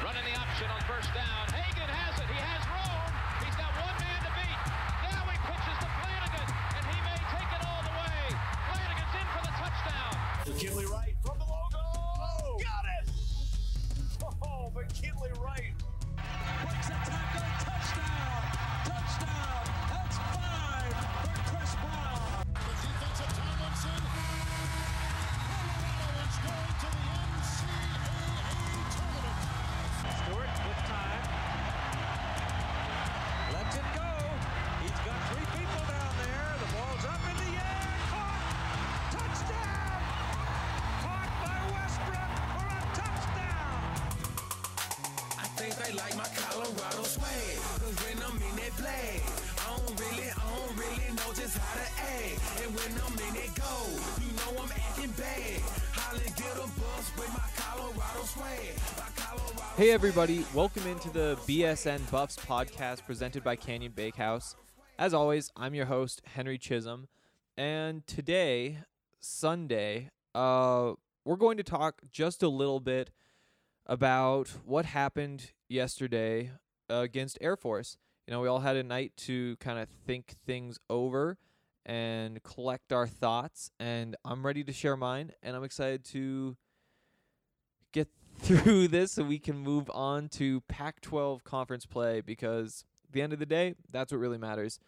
Running the option on first down. Hagan has it. He has room. He's got one man to beat. Now he pitches to Flanagan, and he may take it all the way. Flanagan's in for the touchdown. McKinley Wright from the logo. Got it! Oh, McKinley Wright. Breaks a tackle. Touchdown! Touchdown! That's 5 for Chris Brown. The defense of Tomlinson. Colorado is going to the NCAA tournament. Stewart with time. Lets it go. He's got 3 people down there. The ball's up in the air. Caught! Touchdown! Caught by Westbrook for a touchdown! I think they like my Colorado swag, 'cause when I'm in that play, I don't really know just how to act. And when I'm in that go, you know I'm acting bad. Holly get a bus with my Colorado swag. Hey everybody, welcome into the BSN Buffs podcast presented by Canyon Bakehouse. As always, I'm your host, Henry Chisholm, and today, Sunday, we're going to talk just a little bit about what happened yesterday against Air Force. You know, we all had a night to kind of think things over and collect our thoughts, and I'm ready to share mine, and I'm excited to get through this so we can move on to Pac-12 conference play, because at the end of the day, that's what really matters.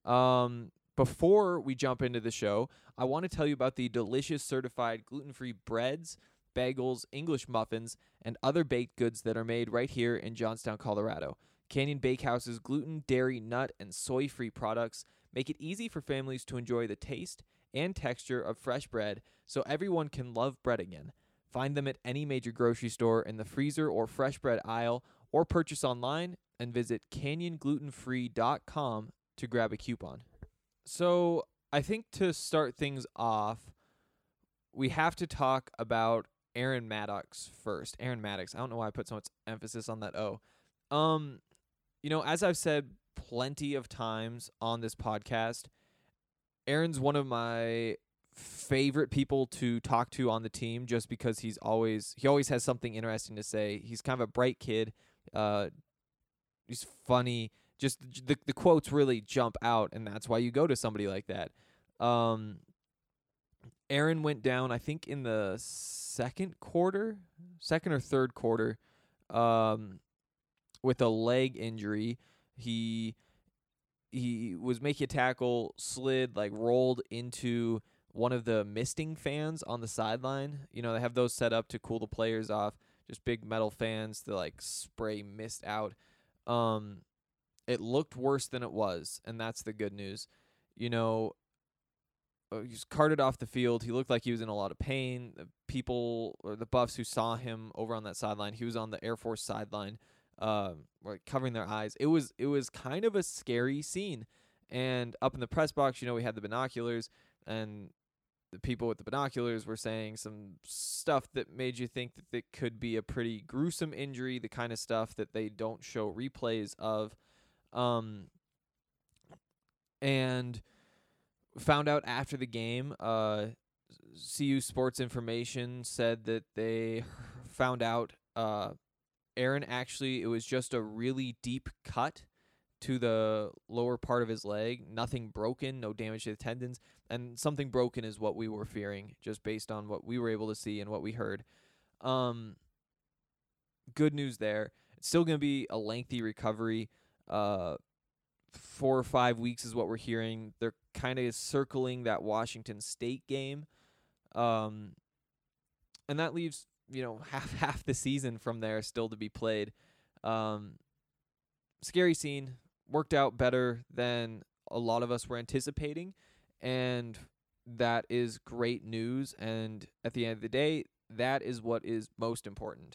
Before we jump into the show, I want to tell you about the delicious certified gluten-free breads, bagels, English muffins, and other baked goods that are made right here in Johnstown, Colorado. Canyon Bakehouse's gluten, dairy, nut, and soy-free products make it easy for families to enjoy the taste and texture of fresh bread so everyone can love bread again. Find them at any major grocery store in the freezer or fresh bread aisle, or purchase online and visit canyonglutenfree.com to grab a coupon. So I think to start things off, we have to talk about Aaron Maddox first. Aaron Maddox. I don't know why I put so much emphasis on that O. You know, as I've said plenty of times on this podcast, Aaron's one of my favorite people to talk to on the team, just because he always has something interesting to say. He's kind of a bright kid. He's funny. Just the quotes really jump out, and that's why you go to somebody like that. Aaron went down, I think, in the second or third quarter, with a leg injury. He was making a tackle, slid, rolled into one of the misting fans on the sideline. You know, they have those set up to cool the players off, just big metal fans to spray mist out. It looked worse than it was, and that's the good news. You know, he was carted off the field. He looked like he was in a lot of pain. The people, or the Buffs who saw him over on that sideline, he was on the Air Force sideline, covering their eyes. It was kind of a scary scene. And up in the press box, you know, we had the binoculars, and the people with the binoculars were saying some stuff that made you think that it could be a pretty gruesome injury, the kind of stuff that they don't show replays of. And found out after the game, CU Sports Information said that they found out Aaron actually, it was just a really deep cut to the lower part of his leg. Nothing broken, no damage to the tendons, and something broken is what we were fearing, just based on what we were able to see and what we heard. Good news there. It's still going to be a lengthy recovery. 4 or 5 weeks is what we're hearing. They're kind of circling that Washington State game. And that leaves, you know, half the season from there still to be played. Scary scene. Worked out better than a lot of us were anticipating, and that is great news. And at the end of the day, that is what is most important.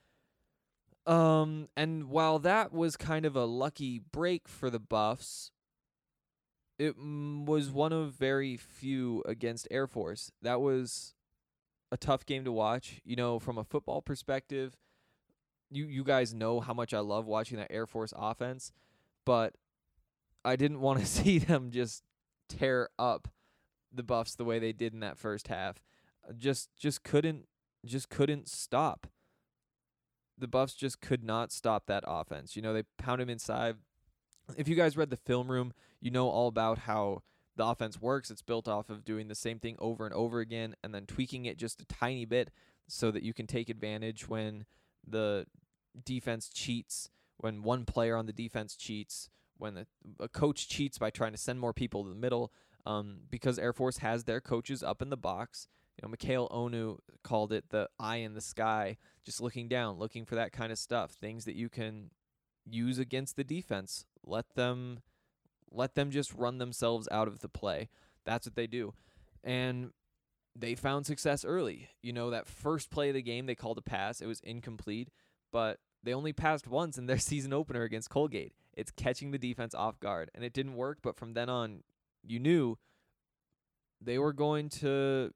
And while that was kind of a lucky break for the Buffs, it was one of very few against Air Force. That was a tough game to watch. You know, from a football perspective, you guys know how much I love watching that Air Force offense, but I didn't want to see them just tear up the Buffs the way they did in that first half. Just couldn't stop the Buffs just could not stop that offense. They pound him inside. If you guys read the film room, you know all about how the offense works. It's built off of doing the same thing over and over again and then tweaking it just a tiny bit so that you can take advantage when the defense cheats, when one player on the defense cheats, when a coach cheats by trying to send more people to the middle, because Air Force has their coaches up in the box. Mikhail Onu called it the eye in the sky, just looking down, looking for that kind of stuff, things that you can use against the defense. Let them just run themselves out of the play. That's what they do. And they found success early. That first play of the game, they called a pass. It was incomplete, but they only passed once in their season opener against Colgate. It's catching the defense off guard, and it didn't work, but from then on, you knew they were going to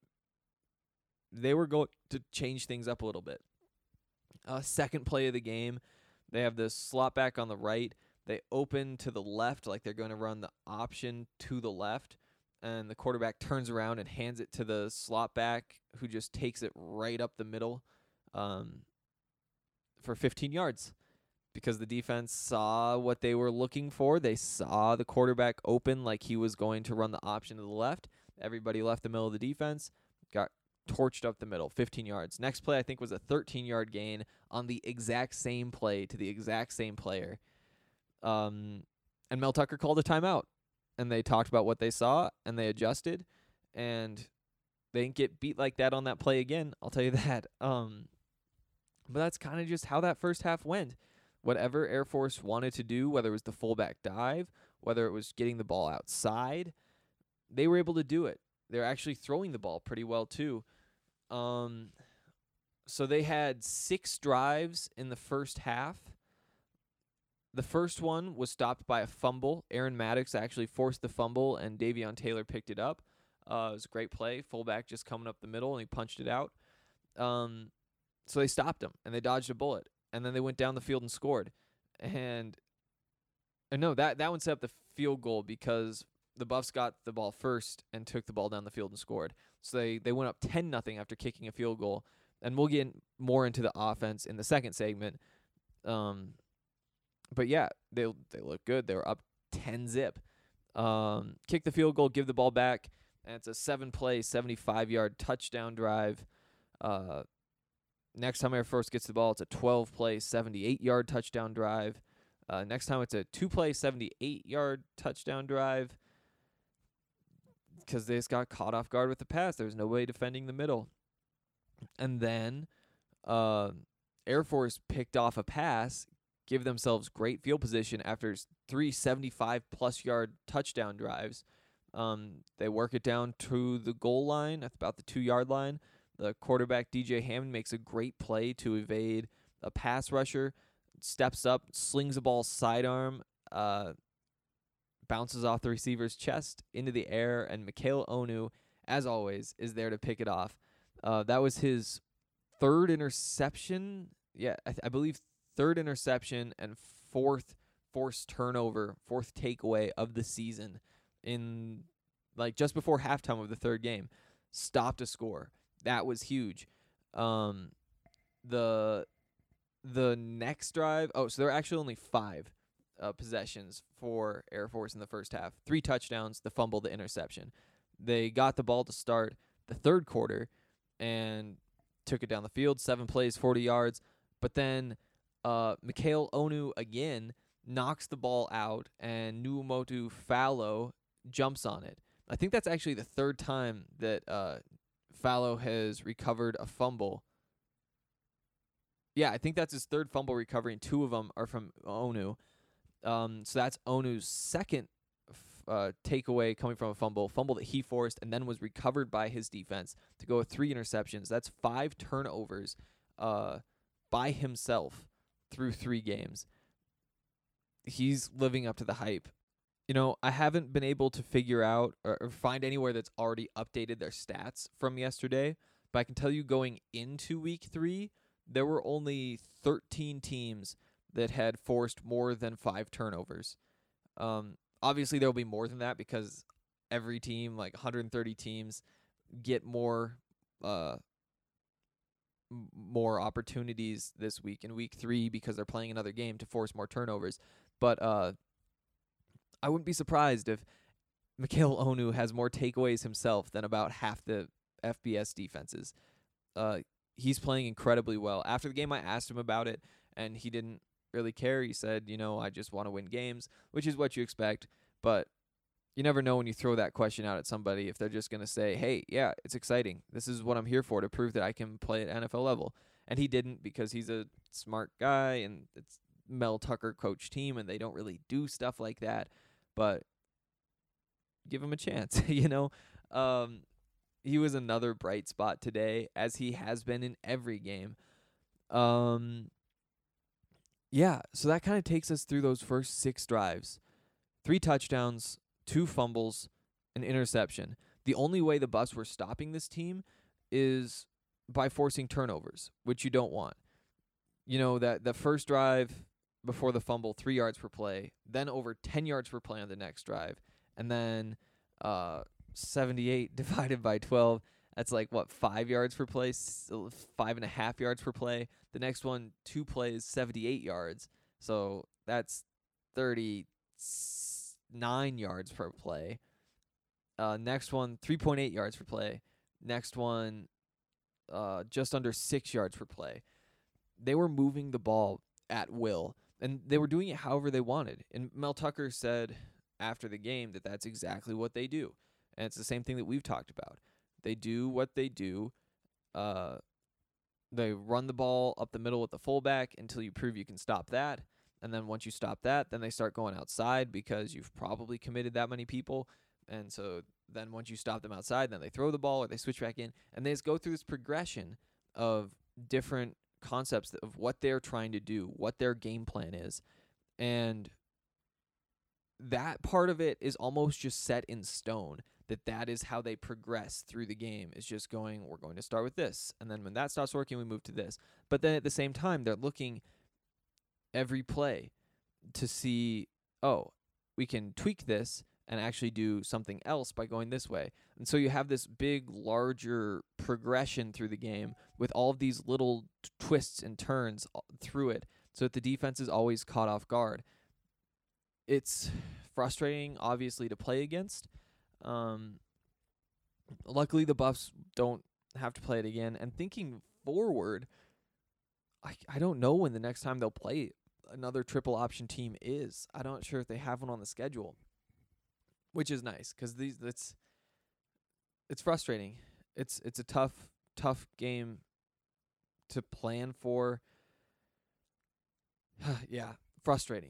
change things up a little bit. Second play of the game, they have the slot back on the right. They open to the left like they're going to run the option to the left, and the quarterback turns around and hands it to the slot back, who just takes it right up the middle for 15 yards because the defense saw what they were looking for. They saw the quarterback open like he was going to run the option to the left. Everybody left the middle of the defense, got torched up the middle, 15 yards. Next play, I think, was a 13-yard gain on the exact same play to the exact same player. And Mel Tucker called a timeout, and they talked about what they saw, and they adjusted, and they didn't get beat like that on that play again, I'll tell you that. But that's kind of just how that first half went. Whatever Air Force wanted to do, whether it was the fullback dive, whether it was getting the ball outside, they were able to do it. They're actually throwing the ball pretty well, too. So they had 6 drives in the first half. The first one was stopped by a fumble. Aaron Maddox actually forced the fumble, and Davion Taylor picked it up. It was a great play. Fullback just coming up the middle, and he punched it out. So they stopped him, and they dodged a bullet. And then they went down the field and scored. And no, that one set up the field goal because the Buffs got the ball first and took the ball down the field and scored. So they went up 10-0 after kicking a field goal. And we'll get more into the offense in the second segment. But yeah, they look good. They were up 10-zip. Kick the field goal, give the ball back, and it's a 7-play, 75-yard touchdown drive. Next time Air Force gets the ball, it's a 12-play, 78-yard touchdown drive. Next time it's a 2-play, 78-yard touchdown drive because they just got caught off guard with the pass. There was nobody defending the middle. And then Air Force picked off a pass, give themselves great field position after 3 75-plus yard touchdown drives. They work it down to the goal line at about the 2-yard line. The quarterback, DJ Hammond, makes a great play to evade a pass rusher, steps up, slings the ball sidearm, bounces off the receiver's chest into the air, and Mikhail Onu, as always, is there to pick it off. That was his third interception. Yeah, I believe third interception and fourth forced turnover, fourth takeaway of the season in just before halftime of the third game. Stopped a score. That was huge. The next drive, so there were actually only 5 possessions for Air Force in the first half. 3 touchdowns, the fumble, the interception. They got the ball to start the third quarter and took it down the field, 7 plays, 40 yards. But then Mikhail Onu again knocks the ball out, and Nuumotu Fallow jumps on it. I think that's actually the third time that Fallow has recovered a fumble. Yeah, I think that's his third fumble recovery, and 2 of them are from Onu. So that's Onu's second takeaway coming from a fumble that he forced and then was recovered by his defense to go with 3 interceptions. That's 5 turnovers by himself through 3 games. He's living up to the hype. I haven't been able to figure out or find anywhere that's already updated their stats from yesterday, but I can tell you going into week 3, there were only 13 teams that had forced more than 5 turnovers. Obviously, there will be more than that because every team, 130 teams, get more more opportunities this week in week 3 because they're playing another game to force more turnovers. But I wouldn't be surprised if Mikhail Onu has more takeaways himself than about half the FBS defenses. He's playing incredibly well. After the game, I asked him about it, and he didn't really care. He said, I just want to win games, which is what you expect. But you never know when you throw that question out at somebody if they're just going to say, hey, yeah, it's exciting. This is what I'm here for, to prove that I can play at NFL level. And he didn't, because he's a smart guy, and it's Mel Tucker coach team, and they don't really do stuff like that. But give him a chance, He was another bright spot today, as he has been in every game. Yeah, so that kind of takes us through those first 6 drives. 3 touchdowns, 2 fumbles, an interception. The only way the Buffs were stopping this team is by forcing turnovers, which you don't want. That the first drive before the fumble, 3 yards per play, then over 10 yards per play on the next drive, and then 78 divided by 12, that's 5 yards per play, 5.5 yards per play. The next one, 2 plays, 78 yards. So that's 39 yards per play. Next one, 3.8 yards per play. Next one, just under 6 yards per play. They were moving the ball at will, and they were doing it however they wanted. And Mel Tucker said after the game that that's exactly what they do. And it's the same thing that we've talked about. They do what they do. They run the ball up the middle with the fullback until you prove you can stop that. And then once you stop that, then they start going outside because you've probably committed that many people. And so then once you stop them outside, then they throw the ball or they switch back in. And they just go through this progression of different concepts of what they're trying to do, what their game plan is. And that part of it is almost just set in stone, that is how they progress through the game, is just we're going to start with this. And then when that stops working, we move to this. But then at the same time, they're looking every play to see, we can tweak this and actually do something else by going this way. And so you have this big, larger progression through the game with all of these little twists and turns through it, so that the defense is always caught off guard. It's frustrating, obviously, to play against. Luckily, the Buffs don't have to play it again. And thinking forward, I don't know when the next time they'll play another triple option team is. I'm not sure if they have one on the schedule, which is nice because it's frustrating. It's a tough game to plan for. Yeah, frustrating.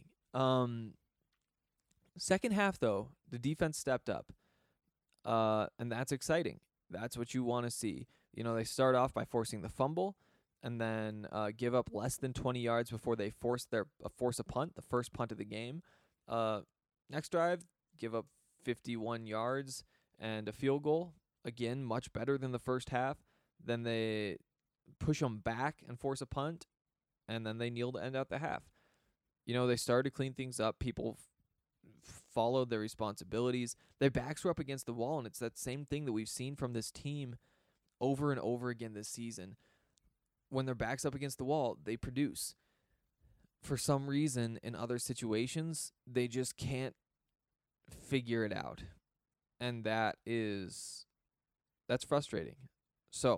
Second half, though, the defense stepped up, and that's exciting. That's what you want to see. They start off by forcing the fumble, and then give up less than 20 yards before they force a punt, the first punt of the game. Next drive, give up 51 yards and a field goal. Again, much better than the first half. Then they push them back and force a punt, and then they kneel to end out the half. They started to clean things up. People followed their responsibilities. Their backs were up against the wall, and it's that same thing that we've seen from this team over and over again this season. When their back's up against the wall, they produce. For some reason, in other situations, they just can't figure it out. And that's frustrating. So,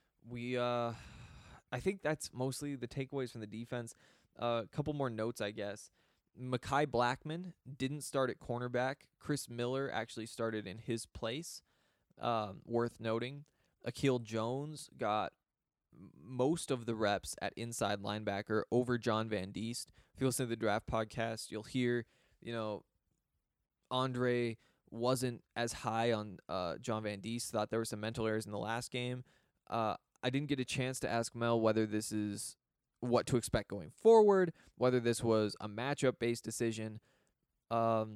I think that's mostly the takeaways from the defense. A couple more notes, I guess. Mekhi Blackmon didn't start at cornerback. Chris Miller actually started in his place. Worth noting. Akil Jones got most of the reps at inside linebacker over John Van Diest. If you listen to the Draft Podcast, you'll hear, Andre wasn't as high on John Van Diest. Thought there were some mental errors in the last game. I didn't get a chance to ask Mel whether this is what to expect going forward, whether this was a matchup-based decision. But,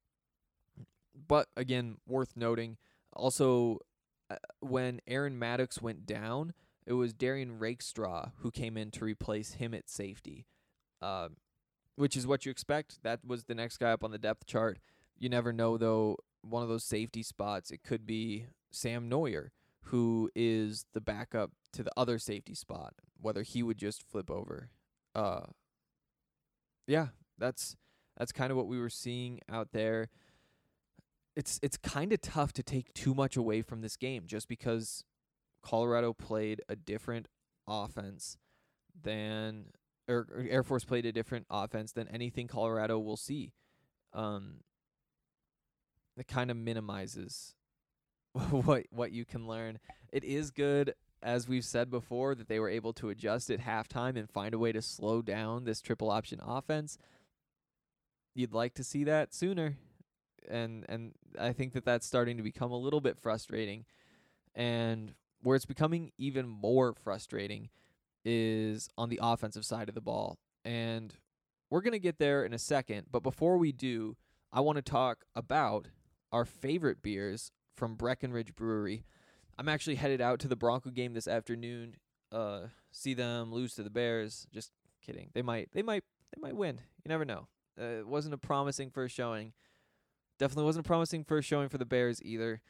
again, worth noting. Also, when Aaron Maddox went down, it was Darian Rakestraw who came in to replace him at safety, which is what you expect. That was the next guy up on the depth chart. You never know, though, one of those safety spots, it could be Sam Neuer, who is the backup to the other safety spot, whether he would just flip over. Yeah, that's kind of what we were seeing out there. It's kind of tough to take too much away from this game just because Colorado played a different offense than or Air Force played a different offense than anything Colorado will see. It kind of minimizes what you can learn. It is good, as we've said before, that they were able to adjust at halftime and find a way to slow down this triple option offense. You'd like to see that sooner, and I think that that's starting to become a little bit frustrating. And where it's becoming even more frustrating is on the offensive side of the ball. And we're going to get there in a second, but before we do, I want to talk about our favorite beers from Breckenridge Brewery. I'm actually headed out to the Bronco game this afternoon. See them lose to the Bears. Just kidding. They might win. You never know. It wasn't a promising first showing. Definitely wasn't a promising first showing for the Bears either.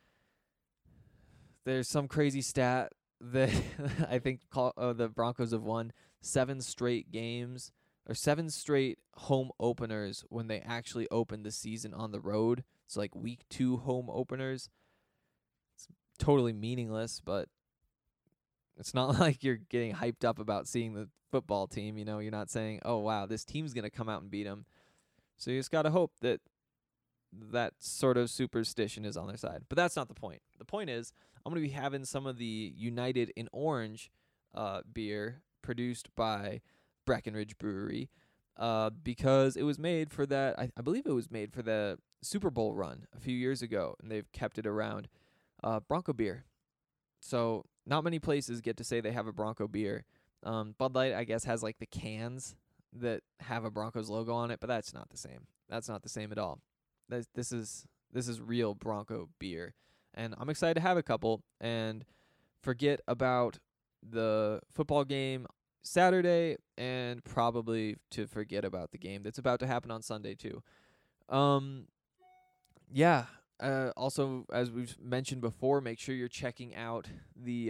There's some crazy stat that I think the Broncos have won 7 straight games or 7 straight home openers when they actually opened the season on the road. So like week 2 home openers. It's totally meaningless, but it's not like you're getting hyped up about seeing the football team. You know, you're not saying, oh, wow, this team's going to come out and beat them. So you just got to hope that that sort of superstition is on their side. But that's not the point. The point is I'm going to be having some of the United in Orange beer produced by Breckenridge Brewery because it was made for that. I believe it was made for the Super Bowl run a few years ago, and they've kept it around. Bronco beer. So not many places get to say they have a Bronco beer. Bud Light, I guess, has like the cans that have a Broncos logo on it, but that's not the same. That's not the same at all. This is real Bronco beer, and I'm excited to have a couple and forget about the football game Saturday and probably to forget about the game that's about to happen on Sunday too. Yeah. Also, as we've mentioned before, make sure you're checking out the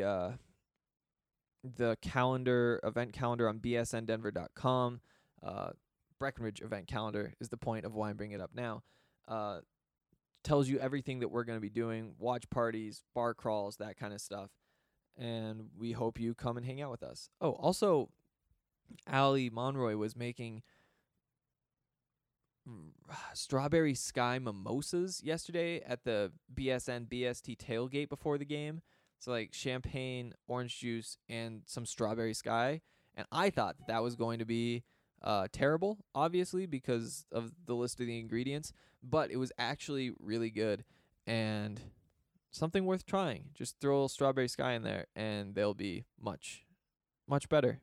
calendar, event calendar on bsndenver.com. Breckenridge event calendar is the point of why I'm bringing it up now. Tells you everything that we're going to be doing, watch parties, bar crawls, that kind of stuff. And we hope you come and hang out with us. Oh, also, Allie Monroy was making strawberry sky mimosas yesterday at the BSN BST tailgate before the game. So like champagne, orange juice, and some strawberry sky. And I thought that was going to be terrible, obviously, because of the list of the ingredients. But it was actually really good and something worth trying. Just throw a little strawberry sky in there, and they'll be much, much better.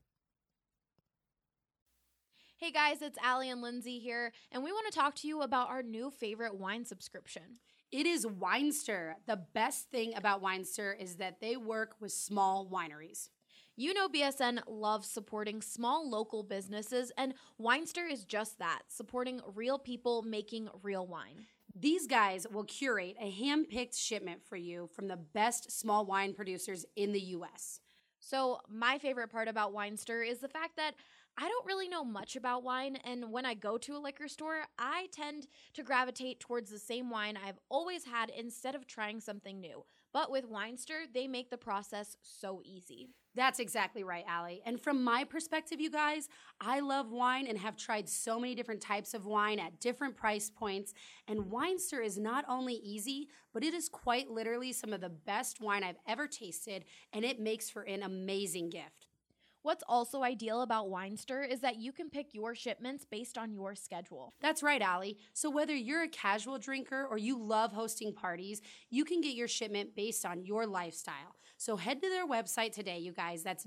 Hey guys, it's Allie and Lindsay here, and we want to talk to you about our new favorite wine subscription. It is Winester. The best thing about Winester is that they work with small wineries. You know BSN loves supporting small local businesses, and Winester is just that, supporting real people making real wine. These guys will curate a hand-picked shipment for you from the best small wine producers in the U.S. So my favorite part about Winester is the fact that I don't really know much about wine, and when I go to a liquor store, I tend to gravitate towards the same wine I've always had instead of trying something new. But with Winester, they make the process so easy. That's exactly right, Allie. And from my perspective, you guys, I love wine and have tried so many different types of wine at different price points. And Winester is not only easy, but it is quite literally some of the best wine I've ever tasted, and it makes for an amazing gift. What's also ideal about Winester is that you can pick your shipments based on your schedule. That's right, Allie. So whether you're a casual drinker or you love hosting parties, you can get your shipment based on your lifestyle. So head to their website today, you guys. That's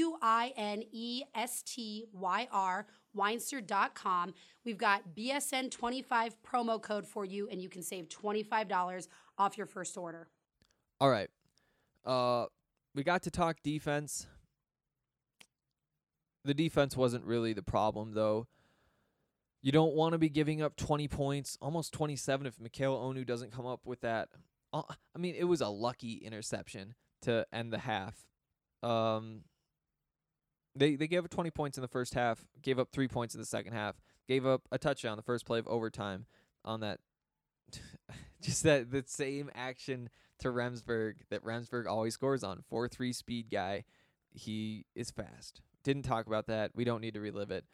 WINESTYR, Winester.com. We've got BSN25 promo code for you, and you can save $25 off your first order. All right. We got to talk defense. The defense wasn't really the problem, though. You don't want to be giving up 20 points, almost 27 if Mikhail Onu doesn't come up with that. I mean, it was a lucky interception, to end the half. They gave up 20 points in the first half, gave up 3 points in the second half, gave up a touchdown the first play of overtime on that. Just that the same action to Remsburg that Remsburg always scores on. 4.3 speed guy. He is fast. Didn't talk about that. We don't need to relive it.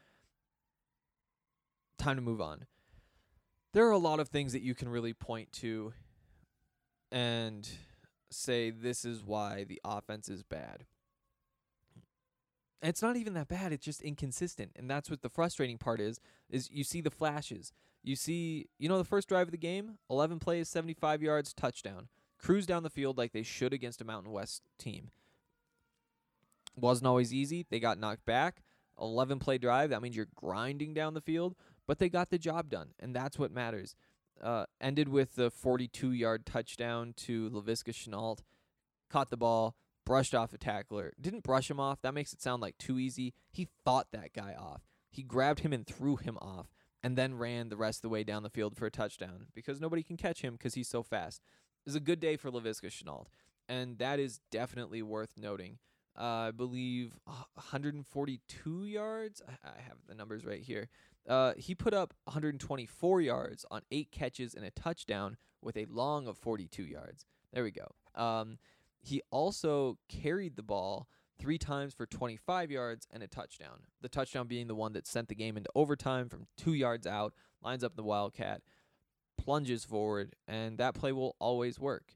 Time to move on. There are a lot of things that you can really point to and say this is why the offense is bad. And it's not even that bad. It's just inconsistent. And that's what the frustrating part is you see the flashes. You see, the first drive of the game, 11 plays, 75 yards, touchdown. Cruise down the field like they should against a Mountain West team. Wasn't always easy. They got knocked back. 11-play drive, that means you're grinding down the field. But they got the job done, and that's what matters. Ended with the 42-yard touchdown to Laviska Shenault. Caught the ball, brushed off a tackler. Didn't brush him off. That makes it sound like too easy. He fought that guy off. He grabbed him and threw him off, and then ran the rest of the way down the field for a touchdown because nobody can catch him because he's so fast. It was a good day for Laviska Shenault, and that is definitely worth noting. I believe 142 yards. I have the numbers right here. He put up 124 yards on 8 catches and a touchdown with a long of 42 yards. There we go. He also carried the ball 3 times for 25 yards and a touchdown. The touchdown being the one that sent the game into overtime from 2 yards out, lines up the Wildcat, plunges forward, and that play will always work.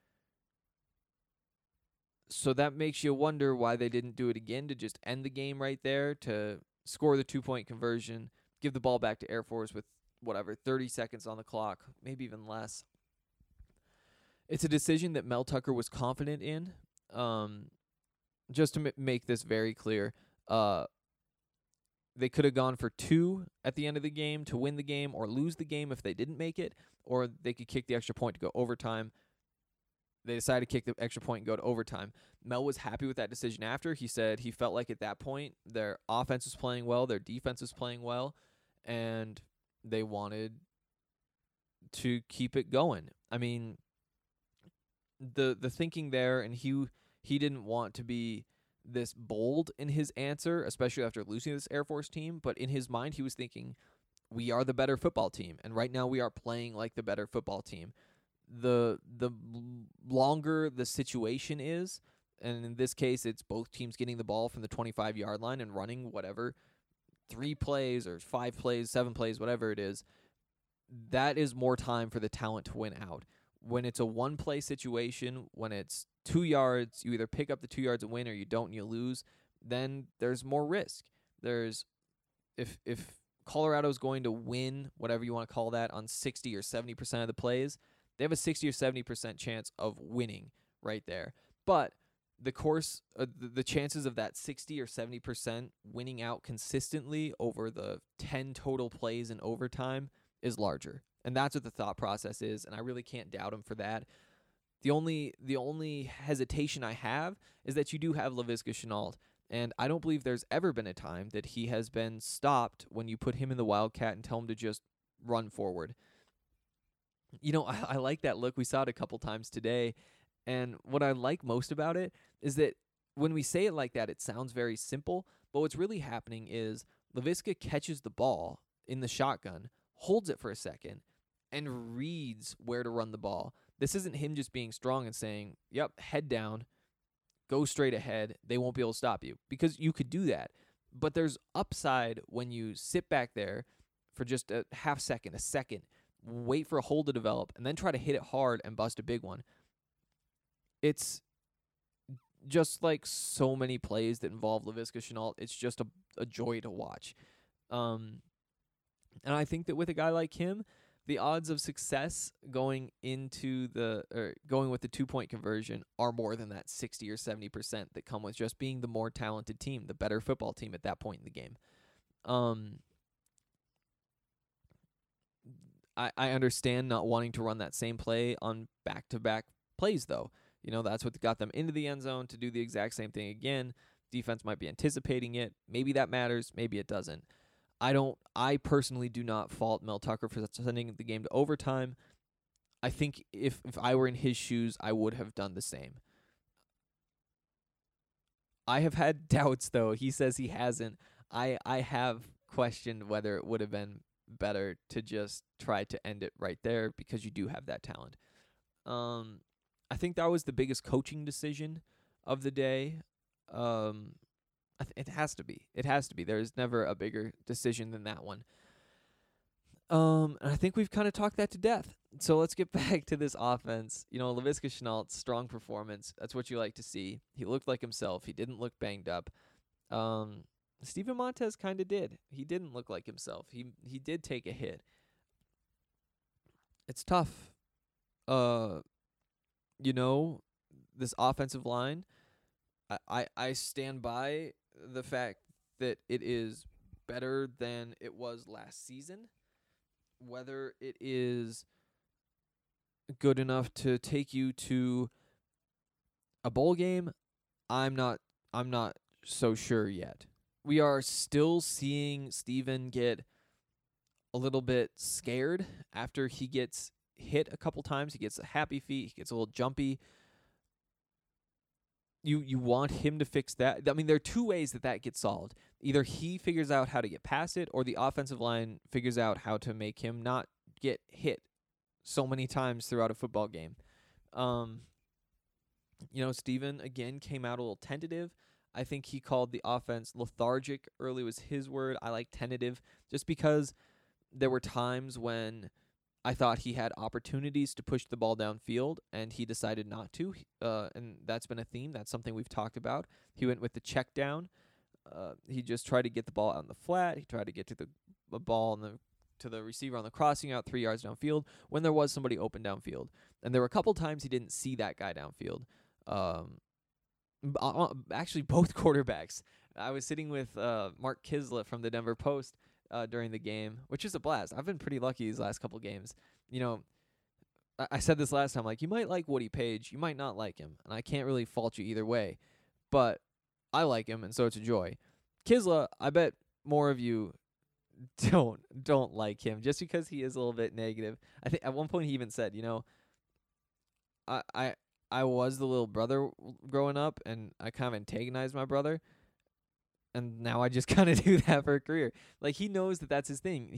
So that makes you wonder why they didn't do it again to just end the game right there, to score the 2-point conversion, give the ball back to Air Force with, 30 seconds on the clock, maybe even less. It's a decision that Mel Tucker was confident in. Just to make this very clear, they could have gone for 2 at the end of the game to win the game or lose the game if they didn't make it, or they could kick the extra point to go overtime. They decided to kick the extra point and go to overtime. Mel was happy with that decision after. He said he felt like at that point their offense was playing well, their defense was playing well, and they wanted to keep it going. I mean, the thinking there, and he didn't want to be this bold in his answer, especially after losing this Air Force team, but in his mind he was thinking, we are the better football team, and right now we are playing like the better football team. The longer the situation is, and in this case it's both teams getting the ball from the 25-yard line and running 3 plays or 5 plays, 7 plays, whatever it is, that is more time for the talent to win out. When it's a 1-play situation, when it's 2 yards, you either pick up the 2 yards and win or you don't and you lose, then there's more risk. There's if Colorado's going to win, whatever you want to call that, on 60 or 70% of the plays, they have a 60 or 70% chance of winning right there. But the chances of that 60 or 70% winning out consistently over the 10 total plays in overtime is larger. And that's what the thought process is, and I really can't doubt him for that. The only hesitation I have is that you do have Laviska Shenault, and I don't believe there's ever been a time that he has been stopped when you put him in the Wildcat and tell him to just run forward. I like that look. We saw it a couple times today, and what I like most about it is that when we say it like that, it sounds very simple, but what's really happening is Laviska catches the ball in the shotgun, holds it for a second, and reads where to run the ball. This isn't him just being strong and saying, yep, head down, go straight ahead, they won't be able to stop you, because you could do that. But there's upside when you sit back there for just a half second, a second, wait for a hole to develop, and then try to hit it hard and bust a big one. It's just like so many plays that involve Laviska Shenault. It's just a joy to watch. And I think that with a guy like him, the odds of success going with the 2-point conversion are more than that 60 or 70% that come with just being the more talented team, the better football team at that point in the game. I understand not wanting to run that same play on back-to-back plays, though. That's what got them into the end zone to do the exact same thing again. Defense might be anticipating it. Maybe that matters. Maybe it doesn't. I personally do not fault Mel Tucker for sending the game to overtime. I think if I were in his shoes, I would have done the same. I have had doubts, though. He says he hasn't. I have questioned whether it would have been better to just try to end it right there because you do have that talent. I think that was the biggest coaching decision of the day. It has to be. It has to be. There's never a bigger decision than that one. And I think we've kind of talked that to death. So let's get back to this offense. Laviska Shenault, strong performance. That's what you like to see. He looked like himself. He didn't look banged up. Steven Montez kind of did. He didn't look like himself. He did take a hit. It's tough. This offensive line, I stand by the fact that it is better than it was last season. Whether it is good enough to take you to a bowl game, I'm not so sure yet. We are still seeing Steven get a little bit scared after he gets hit a couple times. He gets a happy feet. He gets a little jumpy. You want him to fix that. I mean, there are two ways that gets solved. Either he figures out how to get past it, or the offensive line figures out how to make him not get hit so many times throughout a football game. Steven, again, came out a little tentative. I think he called the offense lethargic early was his word. I like tentative just because there were times when I thought he had opportunities to push the ball downfield, and he decided not to. And that's been a theme. That's something we've talked about. He went with the check down. He just tried to get the ball out in the flat. He tried to get to the ball to the receiver on the crossing out 3 yards downfield when there was somebody open downfield. And there were a couple times he didn't see that guy downfield. Actually, both quarterbacks. I was sitting with Mark Kisla from the Denver Post during the game, which is a blast. I've been pretty lucky these last couple games. I said this last time, like, you might like Woody Page, you might not like him, and I can't really fault you either way, but I like him, and so it's a joy. Kisla, I bet more of you don't like him just because he is a little bit negative. I think at one point he even said, I was the little brother growing up, and I kind of antagonized my brother. And now I just kind of do that for a career. Like, he knows that that's his thing.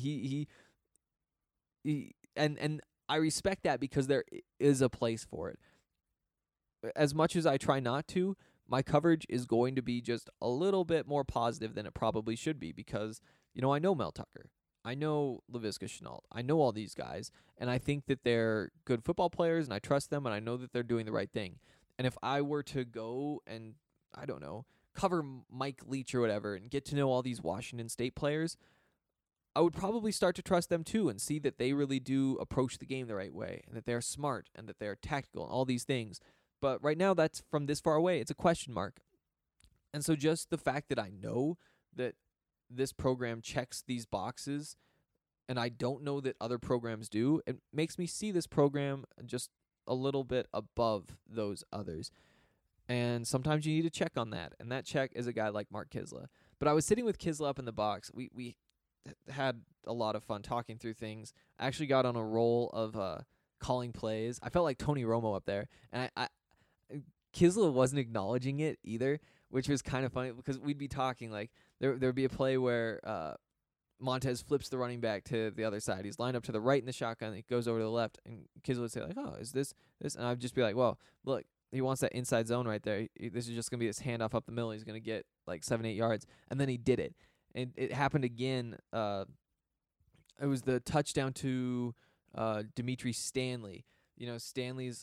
And I respect that because there is a place for it. As much as I try not to, my coverage is going to be just a little bit more positive than it probably should be because, I know Mel Tucker. I know Laviska Shenault. I know all these guys, and I think that they're good football players, and I trust them, and I know that they're doing the right thing. And if I were to go and, I don't know, cover Mike Leach or whatever and get to know all these Washington State players, I would probably start to trust them too and see that they really do approach the game the right way and that they're smart and that they're tactical and all these things. But right now, that's from this far away. It's a question mark. And so just the fact that I know that this program checks these boxes and I don't know that other programs do, it makes me see this program just a little bit above those others. And sometimes you need to check on that. And that check is a guy like Mark Kisla. But I was sitting with Kisla up in the box. We had a lot of fun talking through things. I actually got on a roll of calling plays. I felt like Tony Romo up there. And Kisla wasn't acknowledging it either, which was kind of funny because we'd be talking like there'd be a play where Montez flips the running back to the other side. He's lined up to the right in the shotgun. It goes over to the left. And Kisla would say like, oh, is this? And I'd just be like, well, look. He wants that inside zone right there. This is just going to be this handoff up the middle. He's going to get like 7-8 yards. And then he did it. And it happened again. It was the touchdown to Dimitri Stanley. Stanley's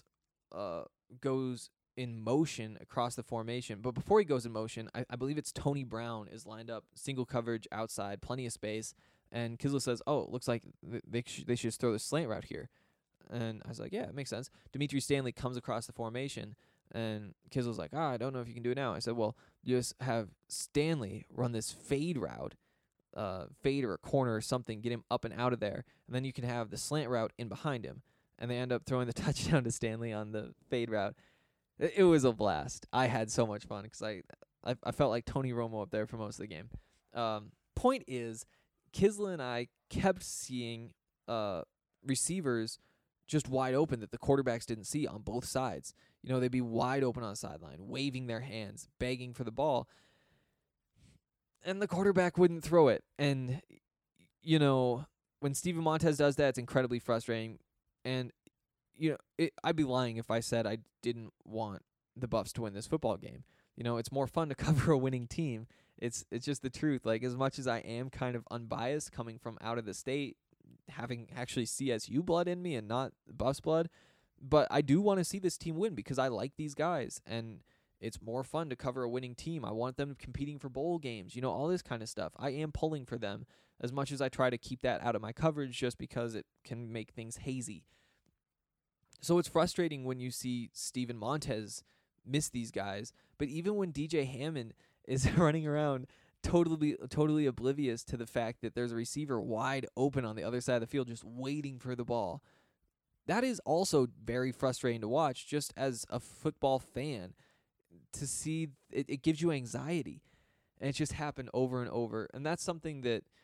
goes in motion across the formation. But before he goes in motion, I believe it's Tony Brown is lined up, single coverage outside, plenty of space. And Kisla says, oh, it looks like they should just throw the slant route here. And I was like, yeah, it makes sense. Dimitri Stanley comes across the formation, and Kisla's like, I don't know if you can do it now. I said, well, you just have Stanley run this fade route, fade or a corner or something, get him up and out of there, and then you can have the slant route in behind him. And they end up throwing the touchdown to Stanley on the fade route. It was a blast. I had so much fun because I felt like Tony Romo up there for most of the game. Point is, Kisla and I kept seeing receivers just wide open that the quarterbacks didn't see on both sides. You know, they'd be wide open on the sideline, waving their hands, begging for the ball, and the quarterback wouldn't throw it. And, you know, when Steven Montez does that, it's incredibly frustrating. And, you know, I'd be lying if I said I didn't want the Buffs to win this football game. You know, it's more fun to cover a winning team. It's just the truth. Like, as much as I am kind of unbiased coming from out of the state, having actually CSU blood in me and not Buffs blood, but I do want to see this team win because I like these guys, and it's more fun to cover a winning team. I want them competing for bowl games, you know, all this kind of stuff. I am pulling for them as much as I try to keep that out of my coverage just because it can make things hazy. So it's frustrating when you see Steven Montez miss these guys, but even when DJ Hammond is running around totally oblivious to the fact that there's a receiver wide open on the other side of the field just waiting for the ball, that is also very frustrating to watch just as a football fan. To see it gives you anxiety, and it just happened over and over. And that's something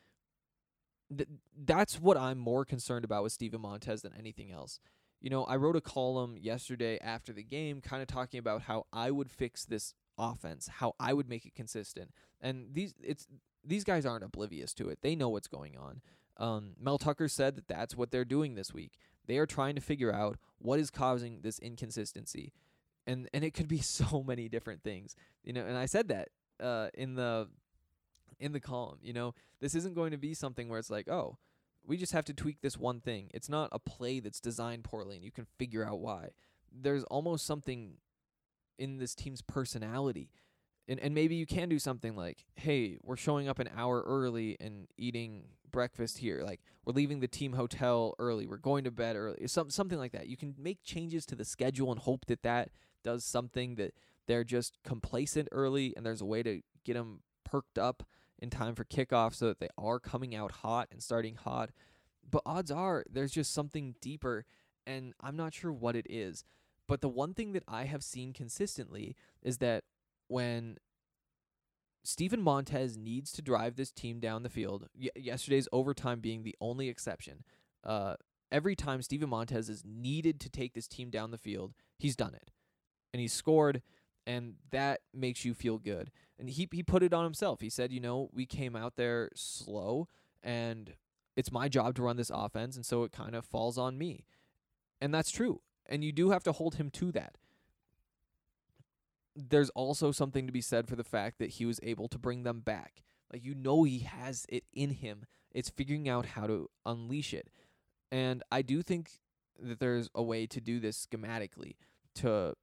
that's what I'm more concerned about with Steven Montez than anything else. You know, I wrote a column yesterday after the game kind of talking about how I would fix this offense, how I would make it consistent. And these guys aren't oblivious to it. They know what's going on. Mel Tucker said that that's what they're doing this week. They are trying to figure out what is causing this inconsistency. And it could be so many different things. You know, and I said that in the column. You know, this isn't going to be something where it's like, oh, we just have to tweak this one thing. It's not a play that's designed poorly and you can figure out why. There's almost something in this team's personality. And maybe you can do something like, hey, we're showing up an hour early and eating breakfast here. Like, we're leaving the team hotel early. We're going to bed early. Something like that. You can make changes to the schedule and hope that does something, that they're just complacent early and there's a way to get them perked up in time for kickoff so that they are coming out hot and starting hot. But odds are there's just something deeper, and I'm not sure what it is. But the one thing that I have seen consistently is that when Steven Montez needs to drive this team down the field, yesterday's overtime being the only exception, every time Steven Montez is needed to take this team down the field, he's done it. And he's scored, and that makes you feel good. And he put it on himself. He said, you know, we came out there slow, and it's my job to run this offense, and so it kind of falls on me. And that's true. And you do have to hold him to that. There's also something to be said for the fact that he was able to bring them back. Like, you know, he has it in him. It's figuring out how to unleash it. And I do think that there's a way to do this schematically to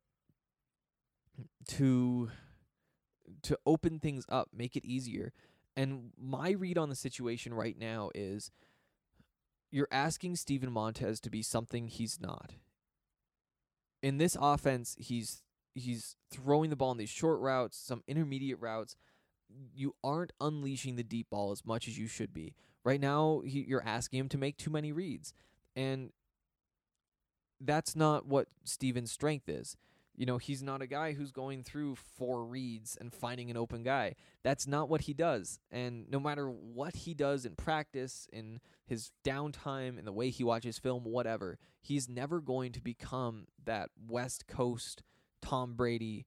open things up, make it easier. And my read on the situation right now is you're asking Steven Montez to be something he's not. In this offense, he's throwing the ball in these short routes, some intermediate routes. You aren't unleashing the deep ball as much as you should be. Right now, you're asking him to make too many reads. And that's not what Steven's strength is. You know, he's not a guy who's going through 4 reads and finding an open guy. That's not what he does. And no matter what he does in practice, in his downtime, in the way he watches film, whatever, he's never going to become that West Coast Tom Brady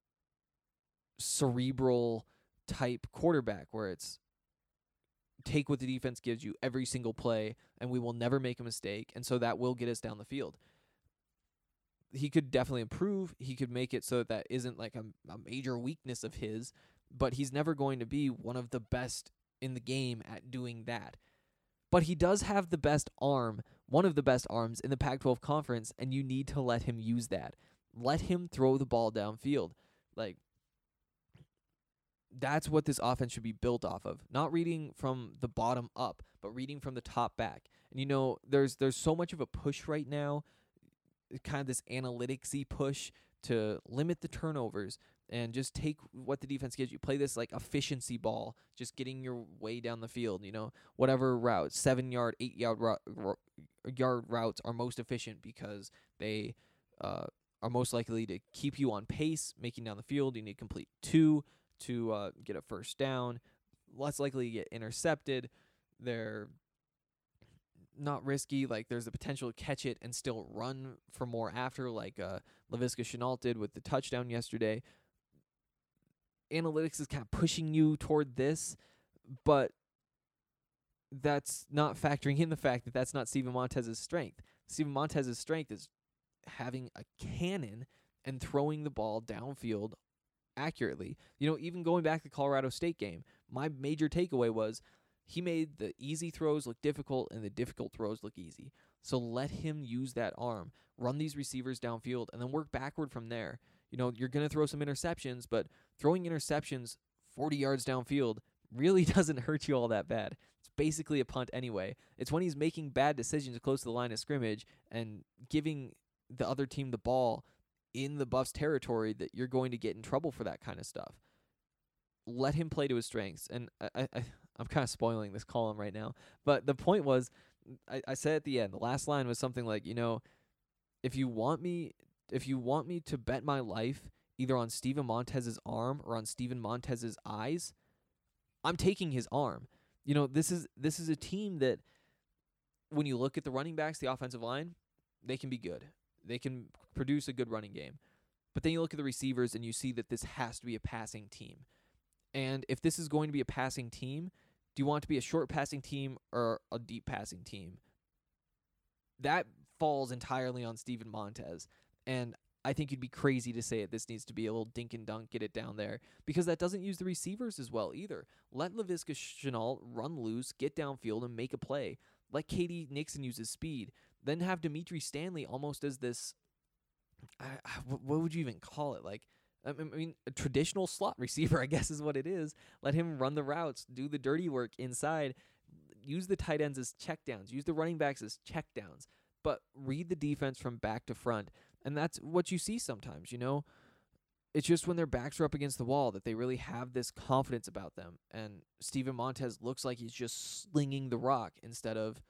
cerebral type quarterback where it's take what the defense gives you every single play and we will never make a mistake, and so that will get us down the field. He could definitely improve. He could make it so that isn't like a major weakness of his, but he's never going to be one of the best in the game at doing that. But he does have the best arm, one of the best arms in the Pac-12 conference, and you need to let him use that. Let him throw the ball downfield. Like, that's what this offense should be built off of. Not reading from the bottom up, but reading from the top back. And you know, there's so much of a push right now, kind of this analytics-y push to limit the turnovers and just take what the defense gives you. Play this like efficiency ball, just getting your way down the field, you know, whatever route, 7-yard, 8-yard yard routes are most efficient because they are most likely to keep you on pace, making down the field. You need to complete 2 to get a first down, less likely to get intercepted. They're not risky. Like, there's the potential to catch it and still run for more after, like Laviska Shenault did with the touchdown yesterday. Analytics is kind of pushing you toward this, but that's not factoring in the fact that that's not Steven Montez's strength. Steven Montez's strength is having a cannon and throwing the ball downfield accurately. Even going back to the Colorado State game, my major takeaway was he made the easy throws look difficult and the difficult throws look easy. So let him use that arm, run these receivers downfield, and then work backward from there. You're going to throw some interceptions, but throwing interceptions 40 yards downfield really doesn't hurt you all that bad. It's basically a punt anyway. It's when he's making bad decisions close to the line of scrimmage and giving the other team the ball in the Buffs territory that you're going to get in trouble for that kind of stuff. Let him play to his strengths. And I'm kind of spoiling this column right now. But the point was, I said at the end, the last line was something like, if you want me to bet my life either on Steven Montez's arm or on Steven Montez's eyes, I'm taking his arm. This is a team that, when you look at the running backs, the offensive line, they can be good. They can produce a good running game. But then you look at the receivers and you see that this has to be a passing team. And if this is going to be a passing team, do you want it to be a short passing team or a deep passing team? That falls entirely on Steven Montez. And I think you'd be crazy to say this needs to be a little dink and dunk, get it down there, because that doesn't use the receivers as well either. Let Laviska Shenault run loose, get downfield, and make a play. Let Katie Nixon use his speed. Then have Dimitri Stanley almost as this, what would you even call it? Like, I mean, a traditional slot receiver, I guess is what it is. Let him run the routes, do the dirty work inside, use the tight ends as checkdowns, use the running backs as checkdowns, but read the defense from back to front. And that's what you see sometimes, It's just when their backs are up against the wall that they really have this confidence about them. And Steven Montez looks like he's just slinging the rock instead of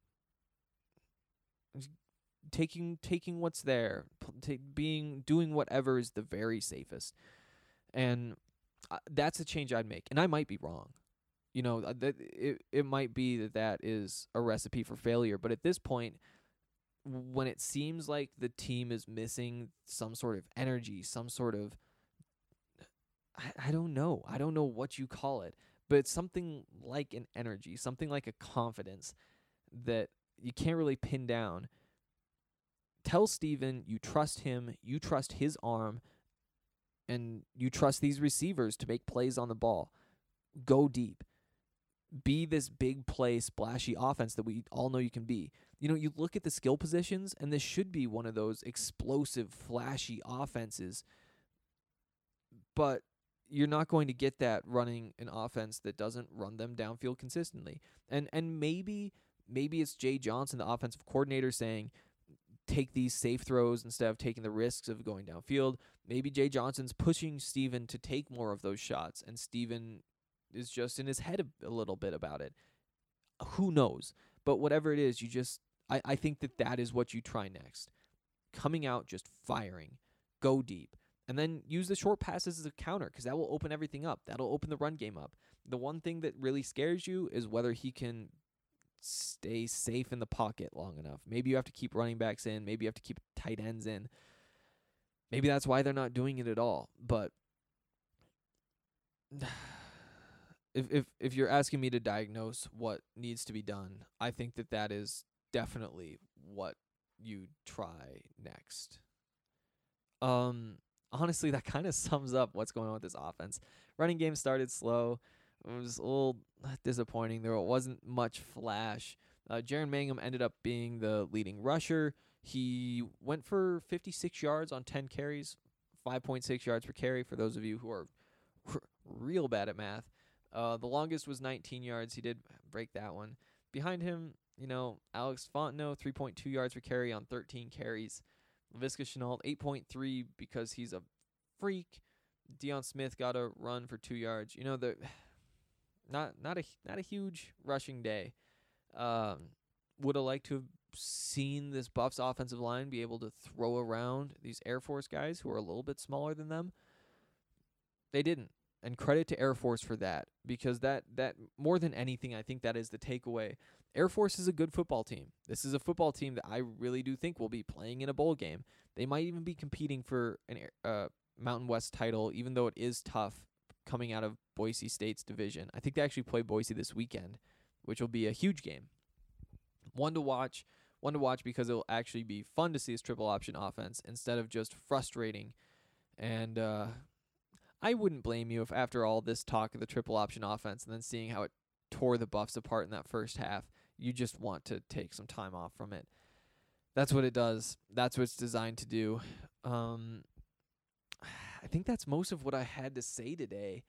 taking what's there, doing whatever is the very safest. And that's a change I'd make. And I might be wrong. It might be that is a recipe for failure. But at this point, when it seems like the team is missing some sort of energy, some sort of, I don't know what you call it, but it's something like an energy, something like a confidence that you can't really pin down. Tell Steven you trust him, you trust his arm, and you trust these receivers to make plays on the ball. Go deep. Be this big play, splashy offense that we all know you can be. You look at the skill positions, and this should be one of those explosive, flashy offenses, but you're not going to get that running an offense that doesn't run them downfield consistently. And maybe it's Jay Johnson, the offensive coordinator, saying, take these safe throws instead of taking the risks of going downfield. Maybe Jay Johnson's pushing Steven to take more of those shots, and Steven is just in his head a little bit about it. Who knows? But whatever it is, I think that is what you try next. Coming out, just firing. Go deep. And then use the short passes as a counter, because that will open everything up. That'll open the run game up. The one thing that really scares you is whether he can stay safe in the pocket long enough. Maybe you have to keep running backs in. Maybe you have to keep tight ends in. Maybe that's why they're not doing it at all. But if you're asking me to diagnose what needs to be done, I think that is definitely what you try next. Honestly, that kind of sums up what's going on with this offense. Running game started slow. It was a little disappointing. There wasn't much flash. Jaren Mangum ended up being the leading rusher. He went for 56 yards on 10 carries, 5.6 yards per carry for those of you who are real bad at math. The longest was 19 yards. He did break that one. Behind him, Alex Fontenot, 3.2 yards per carry on 13 carries. Laviska Shenault, 8.3 because he's a freak. Deion Smith got a run for 2 yards. Not a huge rushing day. Would have liked to have seen this Buffs offensive line be able to throw around these Air Force guys who are a little bit smaller than them. They didn't. And credit to Air Force for that, because that more than anything, I think that is the takeaway. Air Force is a good football team. This is a football team that I really do think will be playing in a bowl game. They might even be competing for an Mountain West title, even though it is tough coming out of Boise State's division. I think they actually play Boise this weekend, which will be a huge game. One to watch because it will actually be fun to see this triple option offense instead of just frustrating. And I wouldn't blame you if after all this talk of the triple option offense and then seeing how it tore the Buffs apart in that first half, you just want to take some time off from it. That's what it does. That's what it's designed to do. I think that's most of what I had to say today.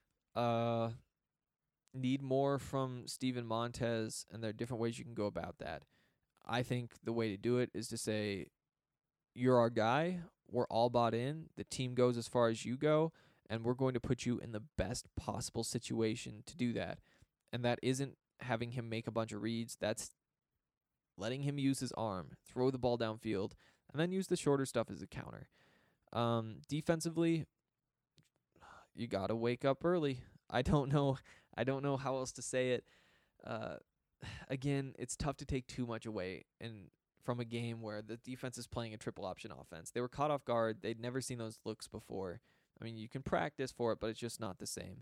Need more from Steven Montez, and there are different ways you can go about that. I think the way to do it is to say, you're our guy, we're all bought in, the team goes as far as you go, and we're going to put you in the best possible situation to do that. And that isn't having him make a bunch of reads. That's letting him use his arm, throw the ball downfield, and then use the shorter stuff as a counter. Defensively, you got to wake up early. I don't know how else to say it. Again, it's tough to take too much away from a game where the defense is playing a triple option offense. They were caught off guard. They'd never seen those looks before. I mean, you can practice for it, but it's just not the same.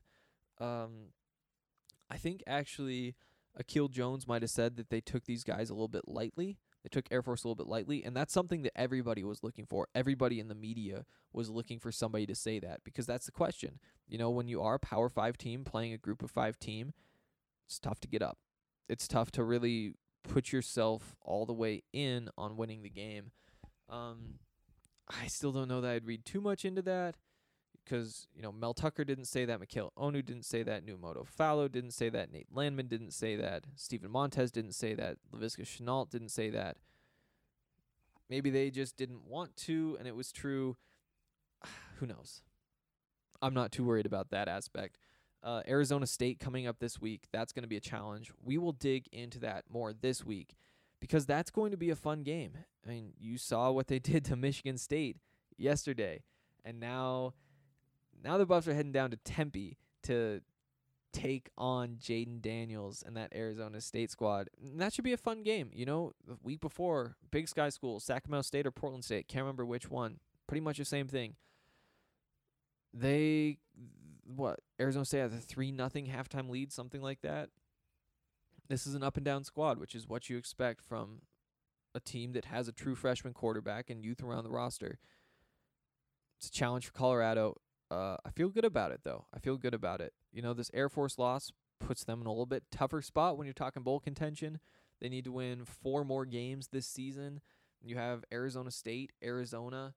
I think actually Akil Jones might have said that they took these guys a little bit lightly. They took Air Force a little bit lightly, and that's something that everybody was looking for. Everybody in the media was looking for somebody to say that, because that's the question. You know, when you are a Power 5 team playing a Group of 5 team, it's tough to get up. It's tough to really put yourself all the way in on winning the game. I still don't know that I'd read too much into that, because, you know, Mel Tucker didn't say that, Mikhail Onu didn't say that, Numoto Fallow didn't say that, Nate Landman didn't say that, Steven Montez didn't say that, Laviska Shenault didn't say that. Maybe they just didn't want to, and it was true. Who knows? I'm not too worried about that aspect. Arizona State coming up this week, that's going to be a challenge. We will dig into that more this week, because that's going to be a fun game. I mean, you saw what they did to Michigan State yesterday, and now the Buffs are heading down to Tempe to take on Jaden Daniels and that Arizona State squad. And that should be a fun game. You know, the week before, Big Sky School, Sacramento State or Portland State, can't remember which one. Pretty much the same thing. Arizona State has a 3-0 halftime lead, something like that. This is an up-and-down squad, which is what you expect from a team that has a true freshman quarterback and youth around the roster. It's a challenge for Colorado. I feel good about it, though. I feel good about it. You know, this Air Force loss puts them in a little bit tougher spot when you're talking bowl contention. They need to win 4 more games this season. You have Arizona State, Arizona,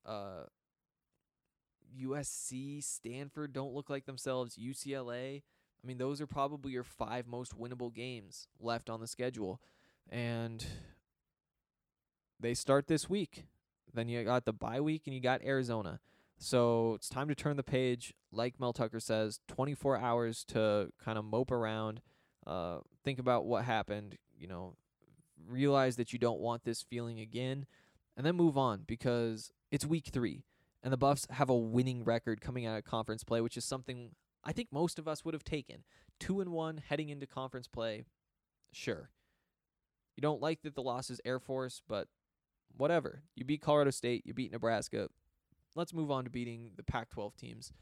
USC, Stanford don't look like themselves, UCLA. I mean, those are probably your 5 most winnable games left on the schedule. And they start this week. Then you got the bye week and you got Arizona. So it's time to turn the page. Like Mel Tucker says, 24 hours to kind of mope around, think about what happened, you know, realize that you don't want this feeling again, and then move on, because it's week 3. And the Buffs have a winning record coming out of conference play, which is something I think most of us would have taken. 2-1 heading into conference play, sure. You don't like that the loss is Air Force, but whatever. You beat Colorado State, you beat Nebraska. Let's move on to beating the Pac-12 teams.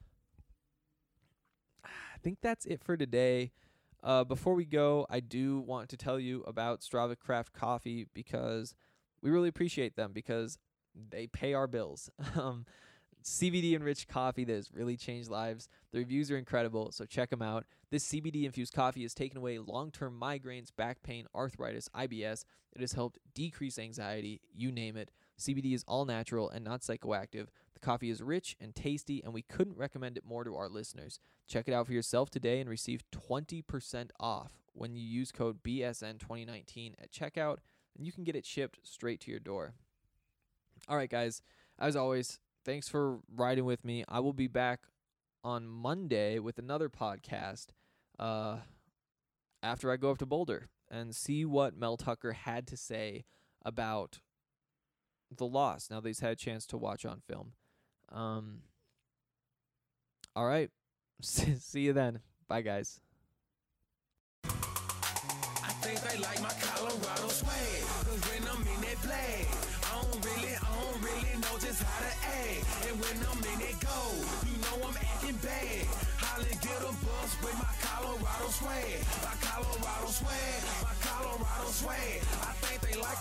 I think that's it for today. Before we go, I do want to tell you about Strava Craft Coffee, because we really appreciate them, because they pay our bills. CBD-enriched coffee that has really changed lives. The reviews are incredible, so check them out. This CBD-infused coffee has taken away long-term migraines, back pain, arthritis, IBS. It has helped decrease anxiety, you name it. CBD is all natural and not psychoactive. The coffee is rich and tasty, and we couldn't recommend it more to our listeners. Check it out for yourself today and receive 20% off when you use code BSN2019 at checkout, and you can get it shipped straight to your door. All right, guys, as always, thanks for riding with me. I will be back on Monday with another podcast after I go up to Boulder and see what Mel Tucker had to say about the loss now that he's had a chance to watch on film. All right. See you then. Bye, guys. I think they like my Colorado swag, cause when I'm in that flag, I don't really know just how to act. And when I'm in that gold, you know I'm acting bad. Holly get a bus with my Colorado swag, my Colorado swag, my Colorado swag. I think they like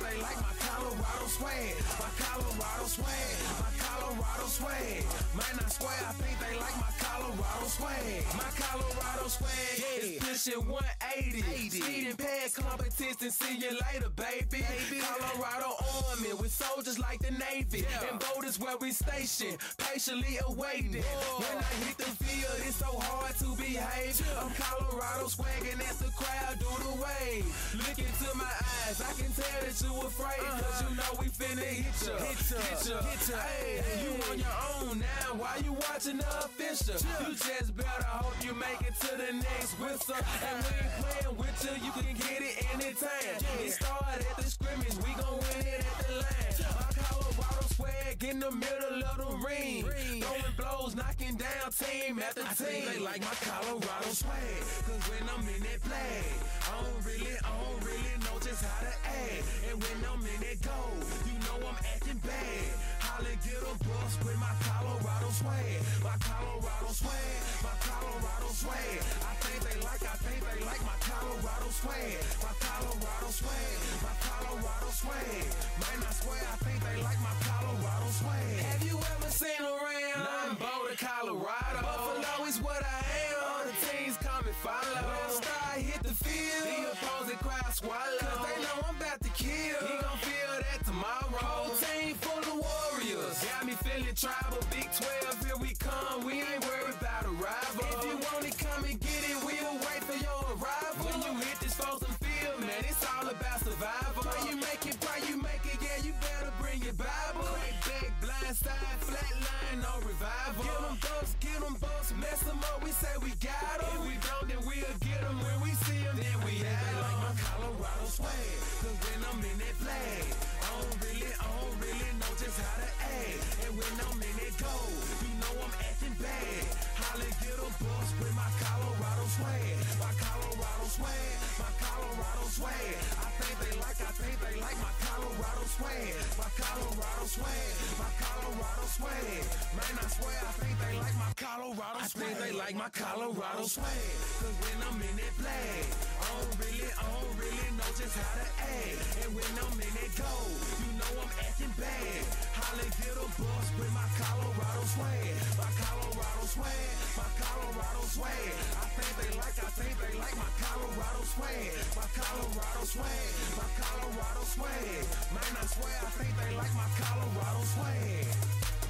my Colorado swag, my Colorado swag, my Colorado swag. Man, I swear I think they like my Colorado swag, my Colorado swag. Yeah, it's pushing 180. Speeding past competition, see you later, baby. Colorado Army with soldiers like the Navy, and voters where we stationed, patiently awaiting. When I hit the field, it's so hard to behave. I'm Colorado swagging as the crowd do the wave. Look into my eyes, I can tell that you afraid, cause you know we finna hit ya. Hey, you on your own now, why you watching the official? You just better hope you make it to the next whistle. And we ain't playing with you can get it anytime. It started at the scrimmage, we gon' win it at the line. My Colorado swag in the middle of the ring, throwing blows, knocking down team after team. I think they like my Colorado swag, cause when I'm in that flag, I don't really know just how to act. And when I'm in that gold, you know I'm acting bad. Holly get a bus with my Colorado swag, my Colorado swag, my Colorado swag. I think they like my Colorado swag, my Colorado swag, my Colorado swag. Man, I swear I think they like my Colorado swag. Have you ever seen around? I'm Boulder, Colorado. Buffalo is what I am. All the teams come and follow. When Star hit the field, the opposing crowd swallow. Cause they know I'm about to kill. He gon' feel that tomorrow. Whole team full of warriors. Got me feeling tribal. Big 12, here we come. We ain't worried about a rival. If you want it, come and get it. We'll wait for your arrival. When you hit this frozen field, man, it's all about survival. Pray you make it, yeah, you better bring your Bible. Crack back, blind side, flat line, no revival. Get them bucks, mess them up, we say we got them. If we don't, then we'll get them. When we see them, then we have them. Like my Colorado swag, cause when I'm in that flag, I don't really know just how to act. And when I'm in that gold, you know I'm acting bad. Holly get a bus with my Colorado swag, my Colorado swag, my Colorado swag. I think they like my Colorado swag, my Colorado swag, my Colorado swag. Man, I swear I think they like my Colorado swag. I think they like my Colorado swag, cause when I'm in that flag, I don't really know just how to act. And when I'm in that gold, you know I'm acting bad. Holly get a bus with my Colorado swag, my Colorado swag, my Colorado swag. I think they like my Colorado swag, my Colorado swag, my Colorado swag. Man, I swear I think they like my Colorado swag.